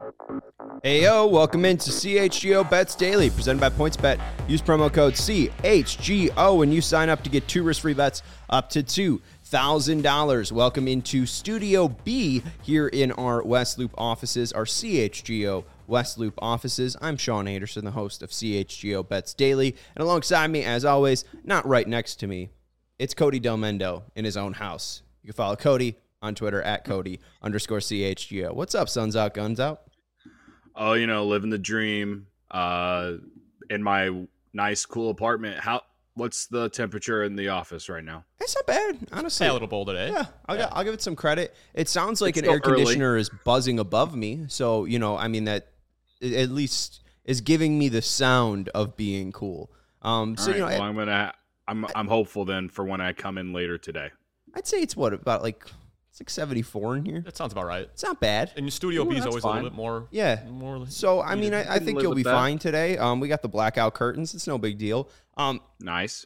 Heyo, welcome into CHGO Bets Daily, presented by PointsBet. Use promo code CHGO when you sign up to get 2 risk-free bets up to $2,000. Welcome into Studio B here in our West Loop offices, our CHGO West Loop offices. I'm Sean Anderson, the host of CHGO Bets Daily, and alongside me, as always, not right next to me, it's Cody Del Mendo in his own house. You can follow Cody on Twitter at Cody_CHGO. What's up, Suns Out, Guns Out? Oh, living the dream in my nice, cool apartment. What's the temperature in the office right now? It's not bad, honestly. A little bold today. Yeah, I'll give it some credit. It sounds like It's an air still early. conditioner is buzzing above me. So, that at least is giving me the sound of being cool. All right, I'm hopeful then for when I come in later today. I'd say it's about like 74 in here. That sounds about right. It's not bad. And your Studio B is that's always fine. a little bit more. Yeah. So, I can think live you'll with be that. fine today. We got the blackout curtains. It's no big deal. Nice.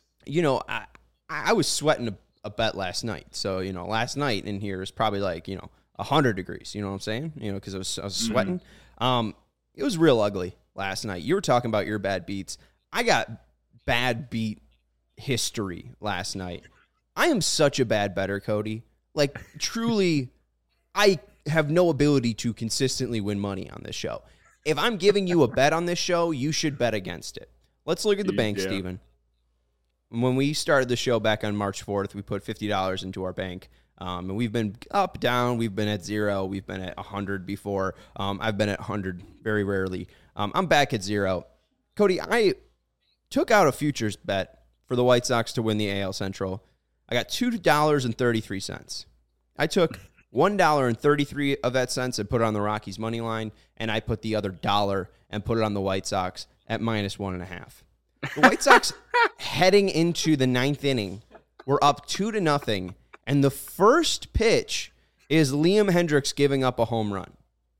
I was sweating a bet last night. So, last night in here is probably like, 100 degrees. You know what I'm saying? Because I was sweating. It was real ugly last night. You were talking about your bad beats. I got bad beat history last night. I am such a bad bettor, Cody. Like, truly, I have no ability to consistently win money on this show. If I'm giving you a bet on this show, you should bet against it. Let's look at the bank, Yeah. Steven. When we started the show back on March 4th, we put $50 into our bank. And we've been up, down. We've been at 0. We've been at 100 before. I've been at 100 very rarely. I'm back at 0. Cody, I took out a futures bet for the White Sox to win the AL Central. I got $2.33. I took $1.33 of that cents and put it on the Rockies money line, and I put the other dollar and put it on the White Sox at -1.5. The White Sox heading into the 9th inning were up 2-0, and the first pitch is Liam Hendricks giving up a home run.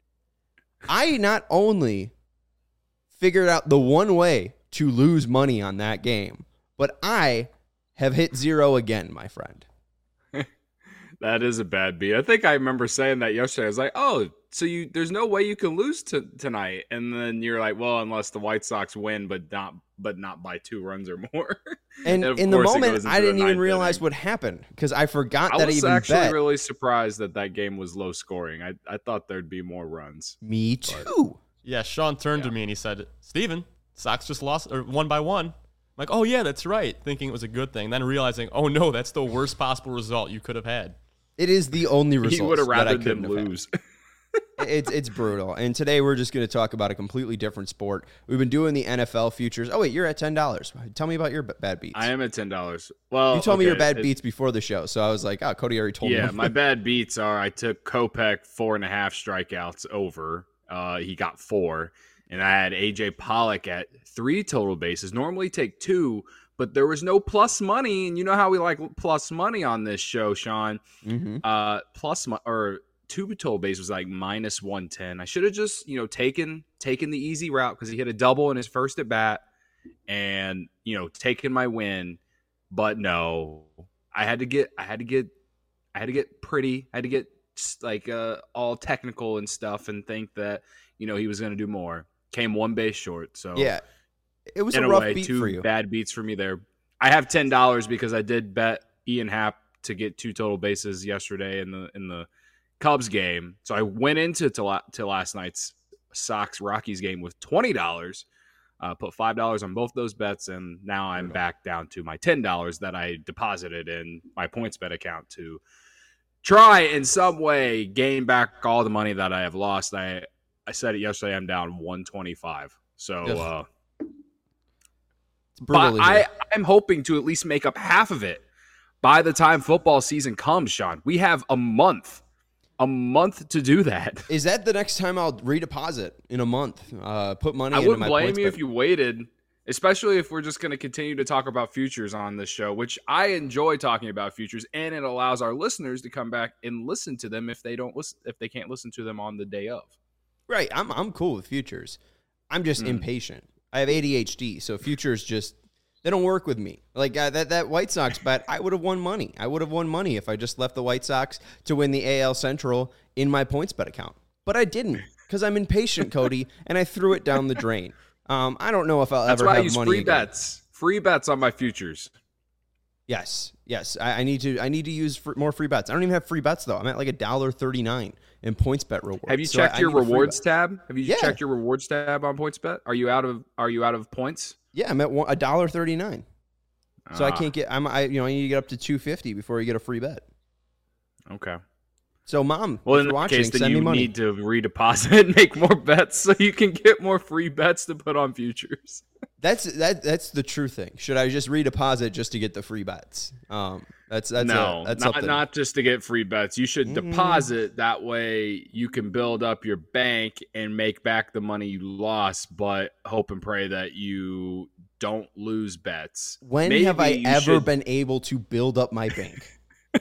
I not only figured out the one way to lose money on that game, but I have hit 0 again, my friend. That is a bad beat. I think I remember saying that yesterday. I was like, oh, so there's no way you can lose tonight. And then you're like, well, unless the White Sox win, but not by 2 runs or more. And of in the course it moment, goes into I didn't the even 9th realize inning. what happened because I forgot I that I was even actually bet. really surprised that game was low scoring. I thought there'd be more runs. Me too. Yeah, Sean turned to me and he said, Steven, Sox just lost or 1 by 1. I'm like, oh, yeah, that's right. Thinking it was a good thing. Then realizing, oh, no, that's the worst possible result you could have had. It is the only result. He would have that I rather couldn't them have had. lose. It's brutal. And today we're just going to talk about a completely different sport. We've been doing the NFL futures. Oh, wait, you're at $10. Tell me about your bad beats. I am at $10. Well, You told me your bad it- beats before the show, so I was like, oh, Cody already told me. Yeah, my bad beats are I took Kopech 4.5 strikeouts over. He got 4. And I had AJ Pollock at 3 total bases. Normally take 2, but there was no plus money. And you know how we like plus money on this show, Sean. Mm-hmm. 2 total base was like -110. I should have just, taken the easy route because he hit a double in his first at bat and, taken my win. But no, I had to get pretty. I had to get like all technical and stuff and think that, he was going to do more. Came 1 base short. So Yeah. It was in a a rough way, beat 2 for you. bad beats for me there. I have $10 because I did bet Ian Happ to get 2 total bases yesterday in the Cubs game. So I went into to last night's Sox Rockies game with $20. Put $5 on both those bets, and now I'm back down to my $10 that I deposited in my PointsBet account to try in some way gain back all the money that I have lost. I said it yesterday. I'm down 125. So, It's brutal. but I'm hoping to at least make up half of it by the time football season comes, Sean. We have a month to do that. Is that the next time I'll redeposit in a month? Put money I into wouldn't my blame points you bet. if you waited, especially if we're just going to continue to talk about futures on this show, which I enjoy talking about futures, and it allows our listeners to come back and listen to them if they can't listen to them on the day of. Right. I'm cool with futures. I'm just impatient. I have ADHD, so futures just they don't work with me. Like that White Sox bet, I would have won money. I would have won money if I just left the White Sox to win the AL Central in my PointsBet account. But I didn't Because I'm impatient, Cody, and I threw it down the drain. I don't know if I'll That's ever why I have use money free again. bets. Free bets on my futures. Yes. I need to use more free bets. I don't even have free bets though. I'm at like $1.39 in PointsBet rewards. Have you So checked I your need a free rewards bet. tab? Have you Yeah. checked your rewards tab on PointsBet? Are you out of points? Yeah, I'm at $1.39. So I Ah, can't get. I need to get up to $2.50 before you get a free bet. Okay. So, Mom, Well, if in you're that watching, case, then send me you money. need to redeposit and make more bets so you can get more free bets to put on futures. That's the true thing. Should I just redeposit just to get the free bets? That's something. not just to get free bets. You should deposit. That way you can build up your bank and make back the money you lost, but hope and pray that you don't lose bets. When Maybe have I you ever should- been able to build up my bank?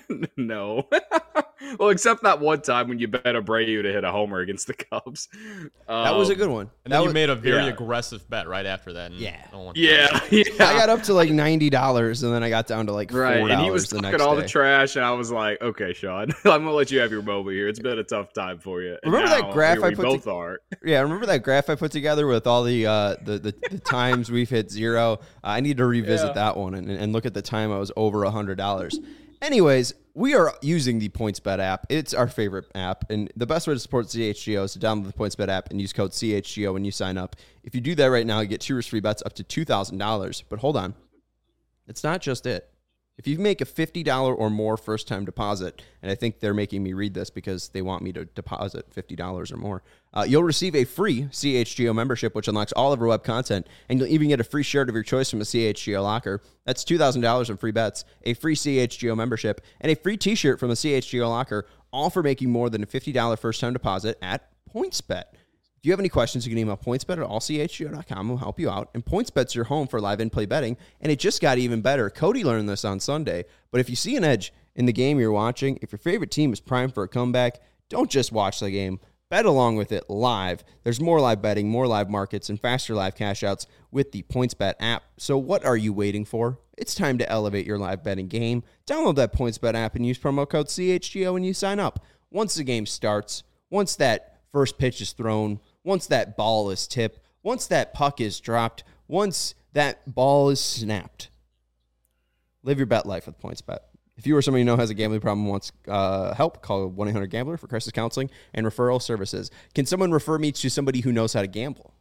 No. Well, except that one time when you bet Abreu to hit a homer against the Cubs. That was a good one. And then That you was- made a very yeah. aggressive bet right after that. And Yeah. no one- Yeah. I got up to like $90, and then I got down to like $4 Right, and he was the talking next all day. the trash, and I was like, "Okay, Sean, I'm gonna let you have your moment here. It's been a tough time for you." And Remember that now, graph here I we put both are. Yeah, remember that graph I put together with all the times we've hit zero? I need to revisit Yeah. that one and look at the time I was over $100. Anyways, we are using the PointsBet app. It's our favorite app, and the best way to support CHGO is to download the PointsBet app and use code CHGO when you sign up. If you do that right now, you get 2 risk free bets up to $2,000. But hold on, it's not just it. If you make a $50 or more first-time deposit, and I think they're making me read this because they want me to deposit $50 or more, you'll receive a free CHGO membership, which unlocks all of our web content, and you'll even get a free shirt of your choice from a CHGO locker. That's $2,000 in free bets, a free CHGO membership, and a free T-shirt from a CHGO locker, all for making more than a $50 first-time deposit at PointsBet. If you have any questions, you can email pointsbet at allchgo.com. We'll help you out. And PointsBet's your home for live in-play betting, and it just got even better. Cody learned this on Sunday, but if you see an edge in the game you're watching, if your favorite team is primed for a comeback, don't just watch the game. Bet along with it live. There's more live betting, more live markets, and faster live cash outs with the PointsBet app. So what are you waiting for? It's time to elevate your live betting game. Download that PointsBet app and use promo code CHGO when you sign up. Once the game starts, once that first pitch is thrown, once that ball is tipped, once that puck is dropped, once that ball is snapped, live your bet life with PointsBet. If you or somebody you know has a gambling problem and wants help, call 1-800-GAMBLER for crisis counseling and referral services. Can someone refer me to somebody who knows how to gamble?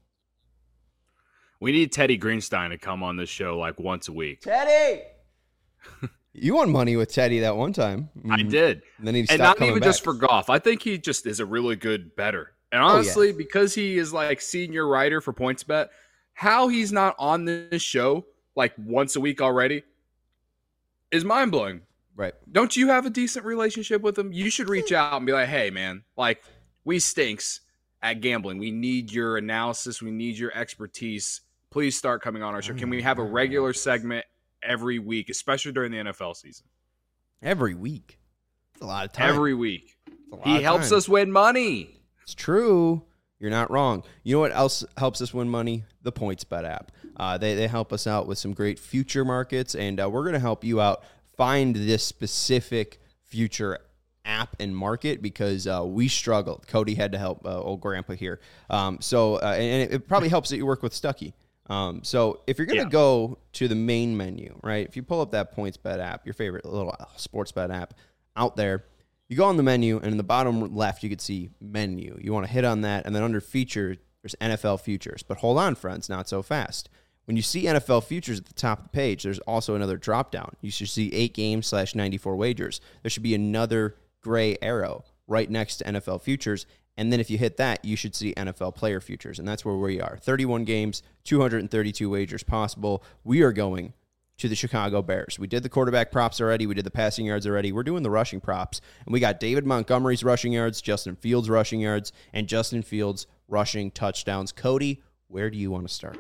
We need Teddy Greenstein to come on this show like once a week. Teddy! You won money with Teddy that one time. I did. And then he And stopped not coming even back. just for golf. I think he just is a really good bettor. And honestly, because he is like senior writer for PointsBet, how he's not on this show like once a week already is mind blowing. Right. Don't you have a decent relationship with him? You should reach out and be like, "Hey, man, like we stinks at gambling. We need your analysis. We need your expertise. Please start coming on our show. Can we have a regular segment every week, especially during the NFL season? Every week. It's a lot of time. Every week. It's a lot He of helps time. us win money." It's true. You're not wrong. You know what else helps us win money? The PointsBet app. They help us out with some great future markets, and we're going to help you out find this specific future app and market because we struggled. Cody had to help old grandpa here. And it probably helps that you work with Stuckey. So if you're going to go to the main menu, right, if you pull up that PointsBet app, your favorite little sports bet app out there, you go on the menu, and in the bottom left, you can see menu. You want to hit on that, and then under feature, there's NFL futures. But hold on, friends, not so fast. When you see NFL futures at the top of the page, there's also another drop-down. You should see 8 games / 94 wagers. There should be another gray arrow right next to NFL futures. And then if you hit that, you should see NFL player futures. And that's where we are. 31 games, 232 wagers possible. We are going to the Chicago Bears. We did the quarterback props already. We did the passing yards already. We're doing the rushing props. And we got David Montgomery's rushing yards, Justin Fields' rushing yards, and Justin Fields' rushing touchdowns. Cody, where do you want to start?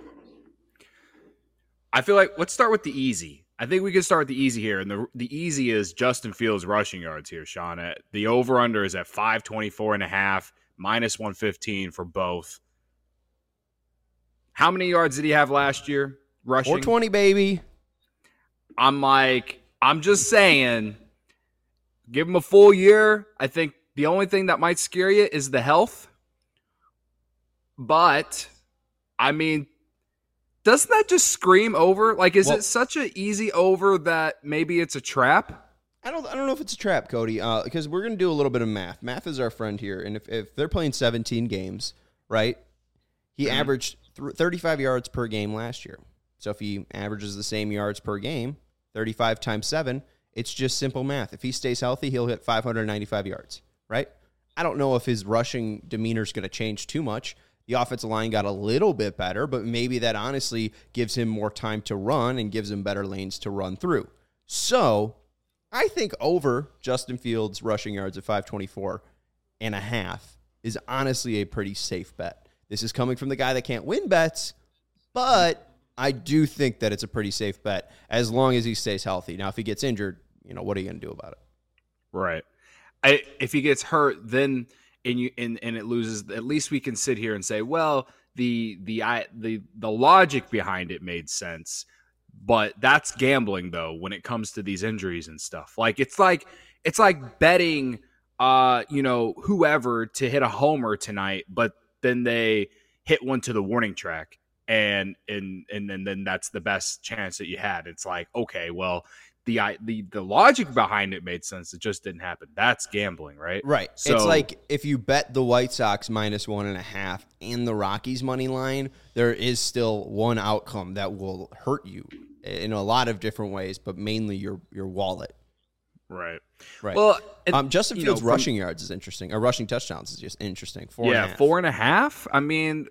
I feel like let's start with the easy. I think we can start with the easy here. And the easy is Justin Fields' rushing yards here, Sean. The over-under is at 524.5, minus 115 for both. How many yards did he have last year rushing? 420, baby. I'm just saying, give him a full year. I think the only thing that might scare you is the health. But I mean, doesn't that just scream over? Like, is it such an easy over that maybe it's a trap? I don't know if it's a trap, Cody, because we're going to do a little bit of math. Math is our friend here, and if they're playing 17 games, right, he averaged 35 yards per game last year. So if he averages the same yards per game, 35 times 7, it's just simple math. If he stays healthy, he'll hit 595 yards, right? I don't know if his rushing demeanor is going to change too much. The offensive line got a little bit better, but maybe that honestly gives him more time to run and gives him better lanes to run through. So I think over Justin Fields' rushing yards at 524.5 is honestly a pretty safe bet. This is coming from the guy that can't win bets, but I do think that it's a pretty safe bet as long as he stays healthy. Now, if he gets injured, what are you going to do about it? Right. If he gets hurt, then and it loses, at least we can sit here and say, well, the logic behind it made sense. But that's gambling, though, when it comes to these injuries and stuff. Like it's like betting, whoever to hit a homer tonight, but then they hit one to the warning track, and then that's the best chance that you had. It's like, okay, well, the logic behind it made sense. It just didn't happen. That's gambling, right? Right. So, it's like if you bet the White Sox -1.5 and the Rockies money line, there is still one outcome that will hurt you in a lot of different ways, but mainly your wallet. Right. Well, Justin Fields' rushing yards is interesting. Rushing touchdowns is just interesting. 4.5. 4.5. I mean,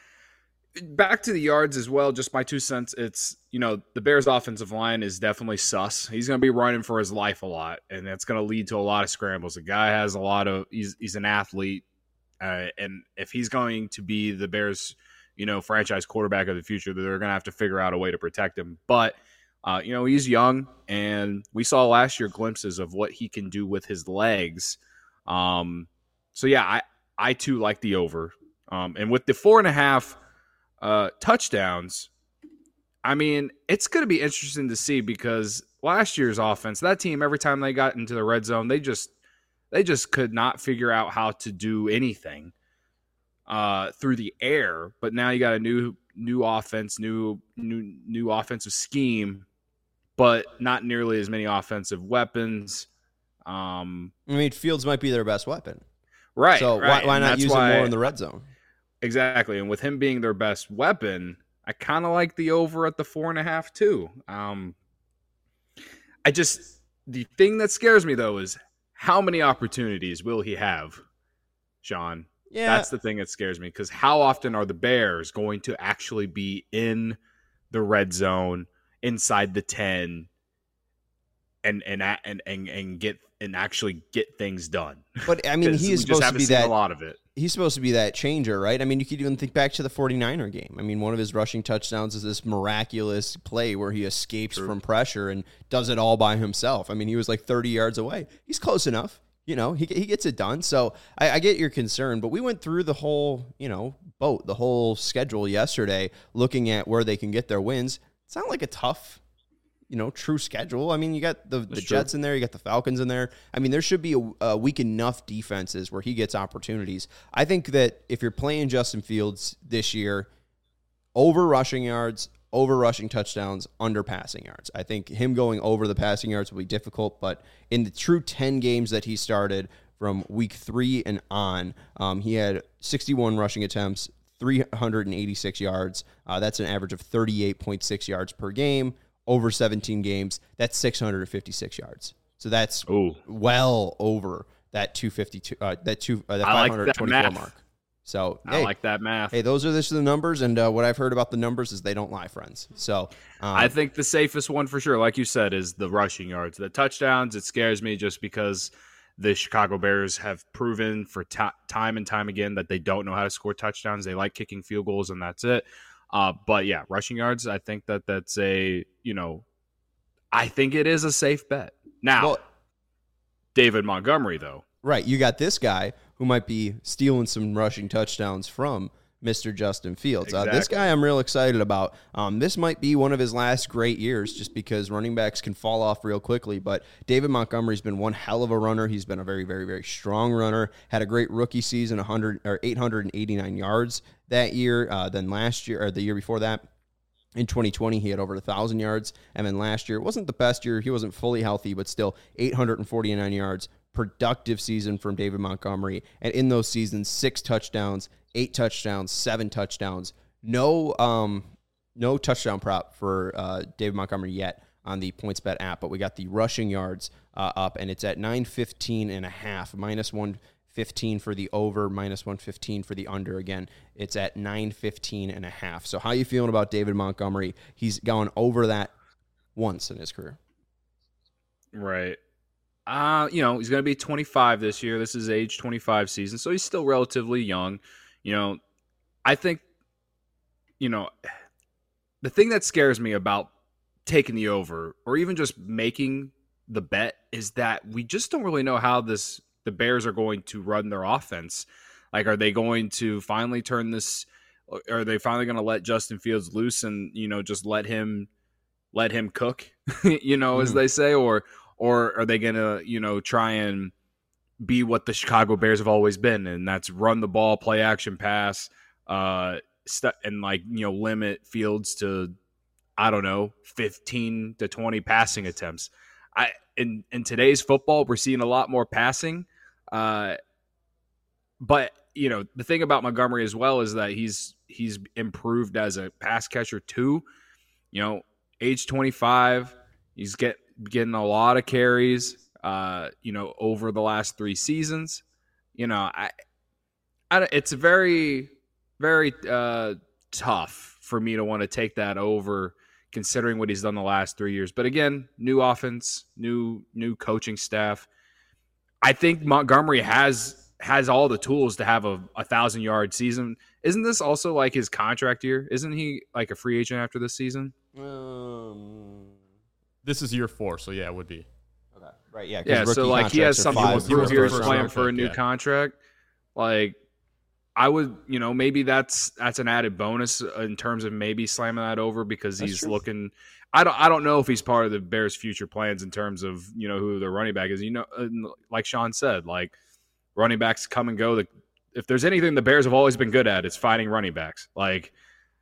back to the yards as well, just my 2 cents. It's, the Bears' offensive line is definitely sus. He's going to be running for his life a lot, and that's going to lead to a lot of scrambles. The guy has he's an athlete, and if he's going to be the Bears' franchise quarterback of the future, they're going to have to figure out a way to protect him. But, he's young, and we saw last year glimpses of what he can do with his legs. So, yeah, I too like the over. And with the 4.5 touchdowns, I mean, it's going to be interesting to see because last year's offense, that team, every time they got into the red zone, they just could not figure out how to do anything through the air. But now you got a new offense, new offensive scheme, but not nearly as many offensive weapons. Fields might be their best weapon, right? So right. why not use him more in the red zone? Exactly, and with him being their best weapon, I kind of like the over at the 4.5 too. The thing that scares me though is how many opportunities will he have, Sean? Yeah, that's the thing that scares me because how often are the Bears going to actually be in the red zone inside the 10 and actually get things done? But I mean, he is supposed to be that. A lot of it. He's supposed to be that changer, right? I mean, you could even think back to the 49er game. I mean, one of his rushing touchdowns is this miraculous play where he escapes from pressure and does it all by himself. I mean, he was like 30 yards away. He's close enough. He gets it done. So I get your concern, but we went through the whole, the whole schedule yesterday, looking at where they can get their wins. It's not like a tough, true schedule. I mean, you got the Jets in there, you got the Falcons in there. I mean, there should be a weak enough defenses where he gets opportunities. I think that if you're playing Justin Fields this year, over rushing yards, over rushing touchdowns, under passing yards. I think him going over the passing yards will be difficult, but in the true 10 games that he started from week 3 and on, he had 61 rushing attempts, 386 yards. That's an average of 38.6 yards per game. Over 17 games, that's 656 yards. So that's well over that 252, that 524 mark. So I like that math. Hey, those are just the numbers, and what I've heard about the numbers is they don't lie, friends. So I think the safest one for sure, like you said, is the rushing yards. The touchdowns, it scares me just because the Chicago Bears have proven for time and time again that they don't know how to score touchdowns. They like kicking field goals, and that's it. But yeah, rushing yards, I think that's I think it is a safe bet. Now, David Montgomery, though. Right. You got this guy who might be stealing some rushing touchdowns from Mr. Justin Fields. This Exactly. guy I'm real excited about. This might be one of his last great years just because running backs can fall off real quickly. But David Montgomery's been one hell of a runner. He's been a very, very, very strong runner. Had a great rookie season, 889 yards that year. Then last year, or the year before that, in 2020, he had over 1,000 yards. And then last year, it wasn't the best year. He wasn't fully healthy, but still 849 yards. Productive season from David Montgomery. And in those seasons, 6 touchdowns, 8 touchdowns, 7 touchdowns. No touchdown prop for David Montgomery yet on the PointsBet app, but we got the rushing yards up, and it's at 915.5, minus 115 for the over, minus 115 for the under. Again, it's at 915.5. So how you feeling about David Montgomery? He's gone over that once in his career. Right. He's going to be 25 this year. This is age 25 season, so he's still relatively young. I think, the thing that scares me about taking the over or even just making the bet is that we just don't really know how the Bears are going to run their offense. Like, are they going to finally turn this? Are they finally going to let Justin Fields loose and, just let him cook, as they say, or are they going to, try and be what the Chicago Bears have always been, and that's run the ball, play action pass, and limit Fields to, 15 to 20 passing attempts. In today's football, we're seeing a lot more passing. But the thing about Montgomery as well is that he's improved as a pass catcher too. Age 25, he's getting a lot of carries, over the last 3 seasons. It's very, very tough for me to want to take that over, considering what he's done the last 3 years. But again, new offense, new coaching staff. I think Montgomery has all the tools to have a 1,000-yard season. Isn't this also like his contract year? Isn't he like a free agent after this season? This is year 4, so yeah, it would be. Okay. Right, yeah. Yeah, so like he has something to prove here. He's playing for a new contract. Like, I would, maybe that's an added bonus in terms of maybe slamming that over because he's looking. I don't know if he's part of the Bears' future plans in terms of who their running back is. Like Sean said, like running backs come and go. If there's anything the Bears have always been good at, it's finding running backs. Like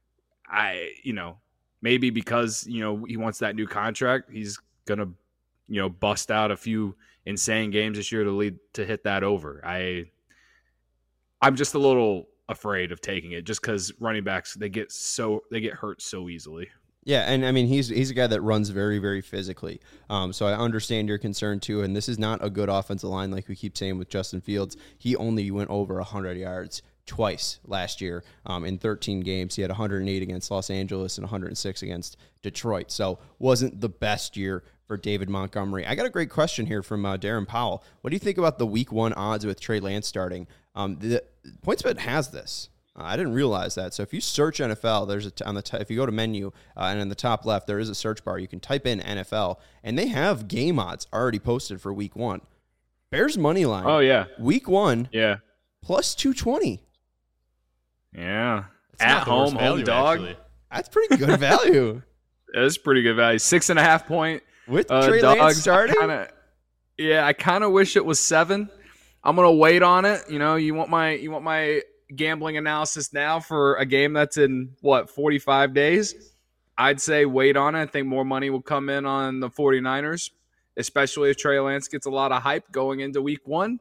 maybe because he wants that new contract, he's gonna bust out a few insane games this year to hit that over. I'm just a little afraid of taking it just because running backs they get hurt so easily. Yeah, and I mean he's a guy that runs very, very physically. So I understand your concern too. And this is not a good offensive line like we keep saying with Justin Fields. He only went over 100 yards twice last year in 13 games. He had 108 against Los Angeles and 106 against Detroit. So wasn't the best year for David Montgomery. I got a great question here from Darren Powell. What do you think about the Week 1 odds with Trey Lance starting? The PointsBet has this. I didn't realize that. So if you search NFL, there's if you go to menu and in the top left, there is a search bar. You can type in NFL, and they have game odds already posted for Week 1. Bears money line. Oh yeah, Week 1. Yeah, plus 220. Yeah, It's at not the worst home value, dog. actually. That's pretty good value. That's pretty good value. 6.5 point With Trey Lance starting. I kind of wish it was 7. I'm gonna wait on it. You want my gambling analysis now for a game that's in 45 days? I'd say wait on it. I think more money will come in on the 49ers, especially if Trey Lance gets a lot of hype going into Week 1.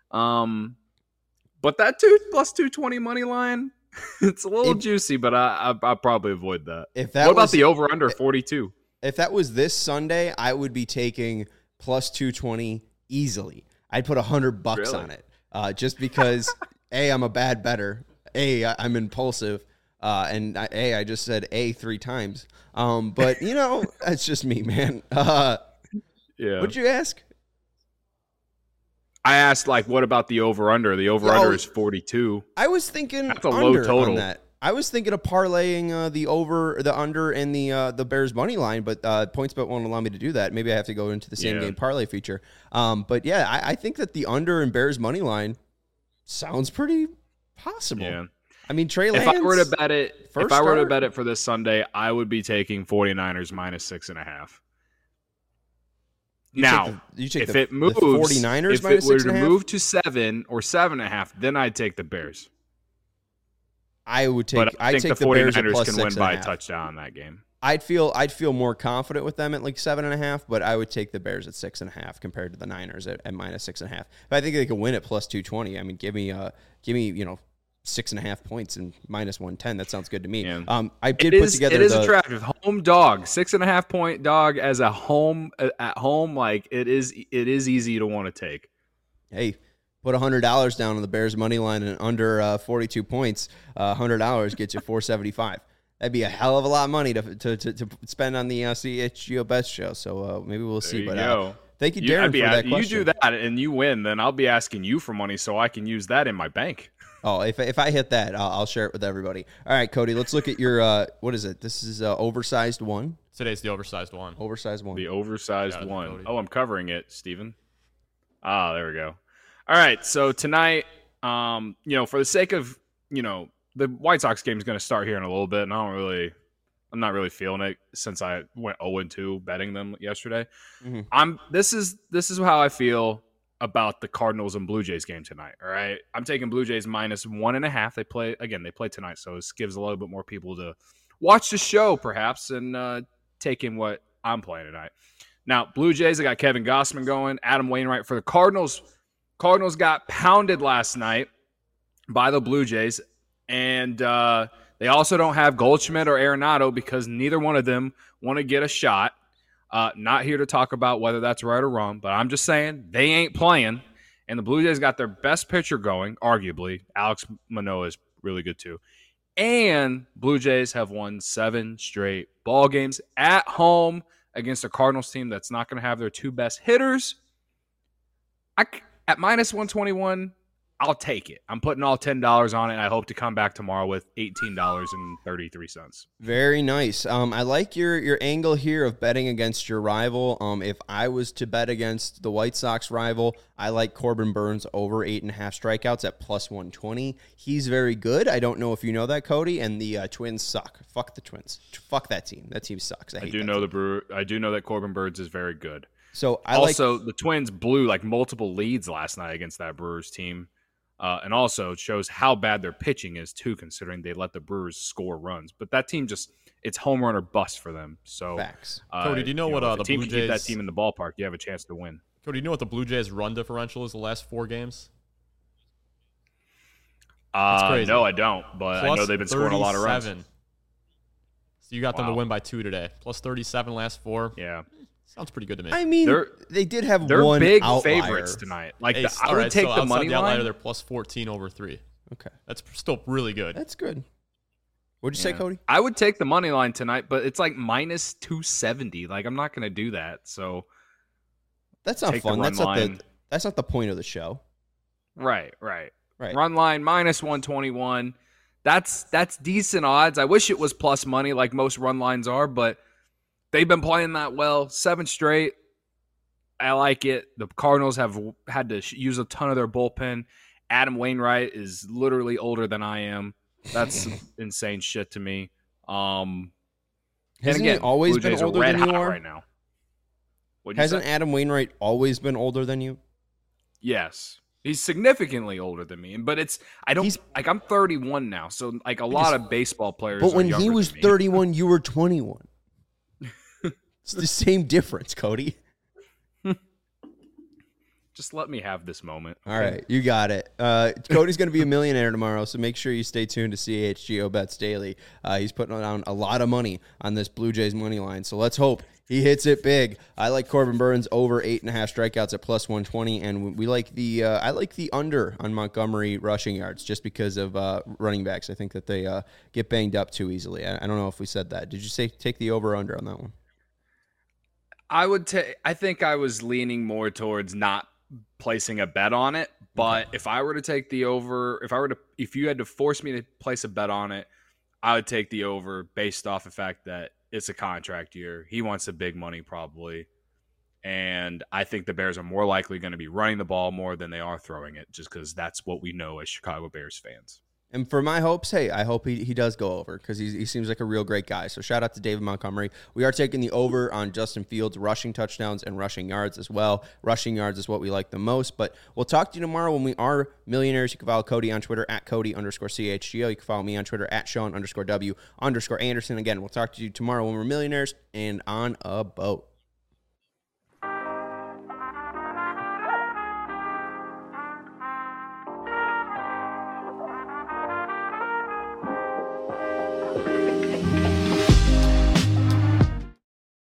But that plus 220 money line, it's a little juicy, but I'll probably avoid that. What about the over-under 42? If that was this Sunday, I would be taking plus 220 easily. I'd put $100 on it just because, A, I'm a bad bettor. A, I'm impulsive. And I just said A 3 times. But, that's just me, man. Yeah. What'd you ask? I asked, what about the over-under? The over-under is 42. I was thinking that's a low total. On that. I was thinking of parlaying the under, and the Bears money line, but PointsBet won't allow me to do that. Maybe I have to go into the same game parlay feature. But yeah, I think that the under and Bears money line sounds pretty possible. Yeah. I mean, Trey Lance. If I were to bet it, first if I were to start? bet it for this Sunday, I would be taking 49ers minus 6.5. Now, if it moves, the 49ers if it minus were to 6.5? move to 7 or 7.5, then I'd take the Bears. I would take. But I think take the Bears at 49ers plus can win by a 6.5. touchdown in that game. I'd feel more confident with them at like 7.5, but I would take the Bears at 6.5 compared to the Niners at minus 6.5. But I think they could win at plus 220. I mean, give me 6.5 points and minus 110. That sounds good to me. Yeah. I did put together. It is attractive. Home dog, 6.5 point dog as a home at home. Like it is easy to want to take. Hey, put $100 down on the Bears money line and under 42 points. $100 gets you $475. That'd be a hell of a lot of money to spend on the CHGO Best Show. So maybe we'll see. There you go. Thank you, Darren, for that question. You do that and you win, then I'll be asking you for money so I can use that in my bank. Oh, if I hit that, I'll share it with everybody. All right, Cody, let's look at your what is it? This is oversized one. Today's the oversized one. Oversized one. The oversized one. Cody. Oh, I'm covering it, Steven. Ah, there we go. All right, so tonight, for the sake of, the White Sox game is going to start here in a little bit, and I'm not really feeling it since I went 0-2 betting them yesterday. Mm-hmm. This is how I feel about the Cardinals and Blue Jays game tonight. All right, I'm taking Blue Jays minus 1.5. They play tonight, so this gives a little bit more people to watch the show, perhaps, and take in what I'm playing tonight. Now, Blue Jays, I got Kevin Gossman going, Adam Wainwright for the Cardinals. Cardinals got pounded last night by the Blue Jays, and they also don't have Goldschmidt or Arenado because neither one of them want to get a shot. Not here to talk about whether that's right or wrong, but I'm just saying they ain't playing. And the Blue Jays got their best pitcher going, arguably. Alex Manoah is really good too. And Blue Jays have won 7 straight ball games at home against a Cardinals team that's not going to have their 2 best hitters. At minus 121, I'll take it. I'm putting all $10 on it, and I hope to come back tomorrow with $18.33. Very nice. I like your angle here of betting against your rival. If I was to bet against the White Sox rival, I like Corbin Burns over 8.5 strikeouts at plus 120. He's very good. I don't know if you know that, Cody, and the Twins suck. Fuck the Twins. Fuck that team. That team sucks. I do know that Corbin Burns is very good. So the Twins blew like multiple leads last night against that Brewers team. And also it shows how bad their pitching is, too, considering they let the Brewers score runs. But that team it's home run or bust for them. So, facts. Cody, do you know what the the team Blue can keep Jays... that team in the ballpark, you have a chance to win. Cody, do you know what the Blue Jays run differential is the last 4 games? Crazy. No, I don't. But Plus I know they've been scoring a lot of runs. 37. So you got them to win by 2 today. Plus 37 last 4. Yeah. Sounds pretty good to me. I mean, they did have they're one big outlier. favorites tonight. Like Hey, I would take the money the outlier, line. they're plus 14 over 3. Okay. That's still really good. That's good. What'd you say, Cody? I would take the money line tonight, but it's like minus 270. Like I'm not going to do that. So that's not fun. That's not the point of the show. Right. Run line minus 121. That's decent odds. I wish it was plus money like most run lines are, but they've been playing that well. 7 straight. I like it. The Cardinals have had to use a ton of their bullpen. Adam Wainwright is literally older than I am. That's insane shit to me. Hasn't he always been older than you are? Right now. Hasn't Adam Wainwright always been older than you? Yes. He's significantly older than me, but I'm 31 now, so like a lot of baseball players. But when he was 31, you were 21. It's the same difference, Cody. Just let me have this moment. All right, you got it. Cody's going to be a millionaire tomorrow, so make sure you stay tuned to CHGO Bets Daily. He's putting down a lot of money on this Blue Jays money line, so let's hope he hits it big. I like Corbin Burns over 8.5 strikeouts at plus 120, and we like I like the under on Montgomery rushing yards just because of running backs. I think that they get banged up too easily. I don't know if we said that. Did you say take the over or under on that one? I think I was leaning more towards not placing a bet on it, but if I were to take the over, if you had to force me to place a bet on it, I would take the over based off the fact that it's a contract year. He wants the big money probably, and I think the Bears are more likely going to be running the ball more than they are throwing it, just because that's what we know as Chicago Bears fans. And for my hopes, hey, I hope he does go over because he seems like a real great guy. So shout out to David Montgomery. We are taking the over on Justin Fields rushing touchdowns and rushing yards as well. Rushing yards is what we like the most. But we'll talk to you tomorrow when we are millionaires. You can follow Cody on Twitter at Cody_CHGO. You can follow me on Twitter at Sean_W_Anderson. Again, we'll talk to you tomorrow when we're millionaires and on a boat.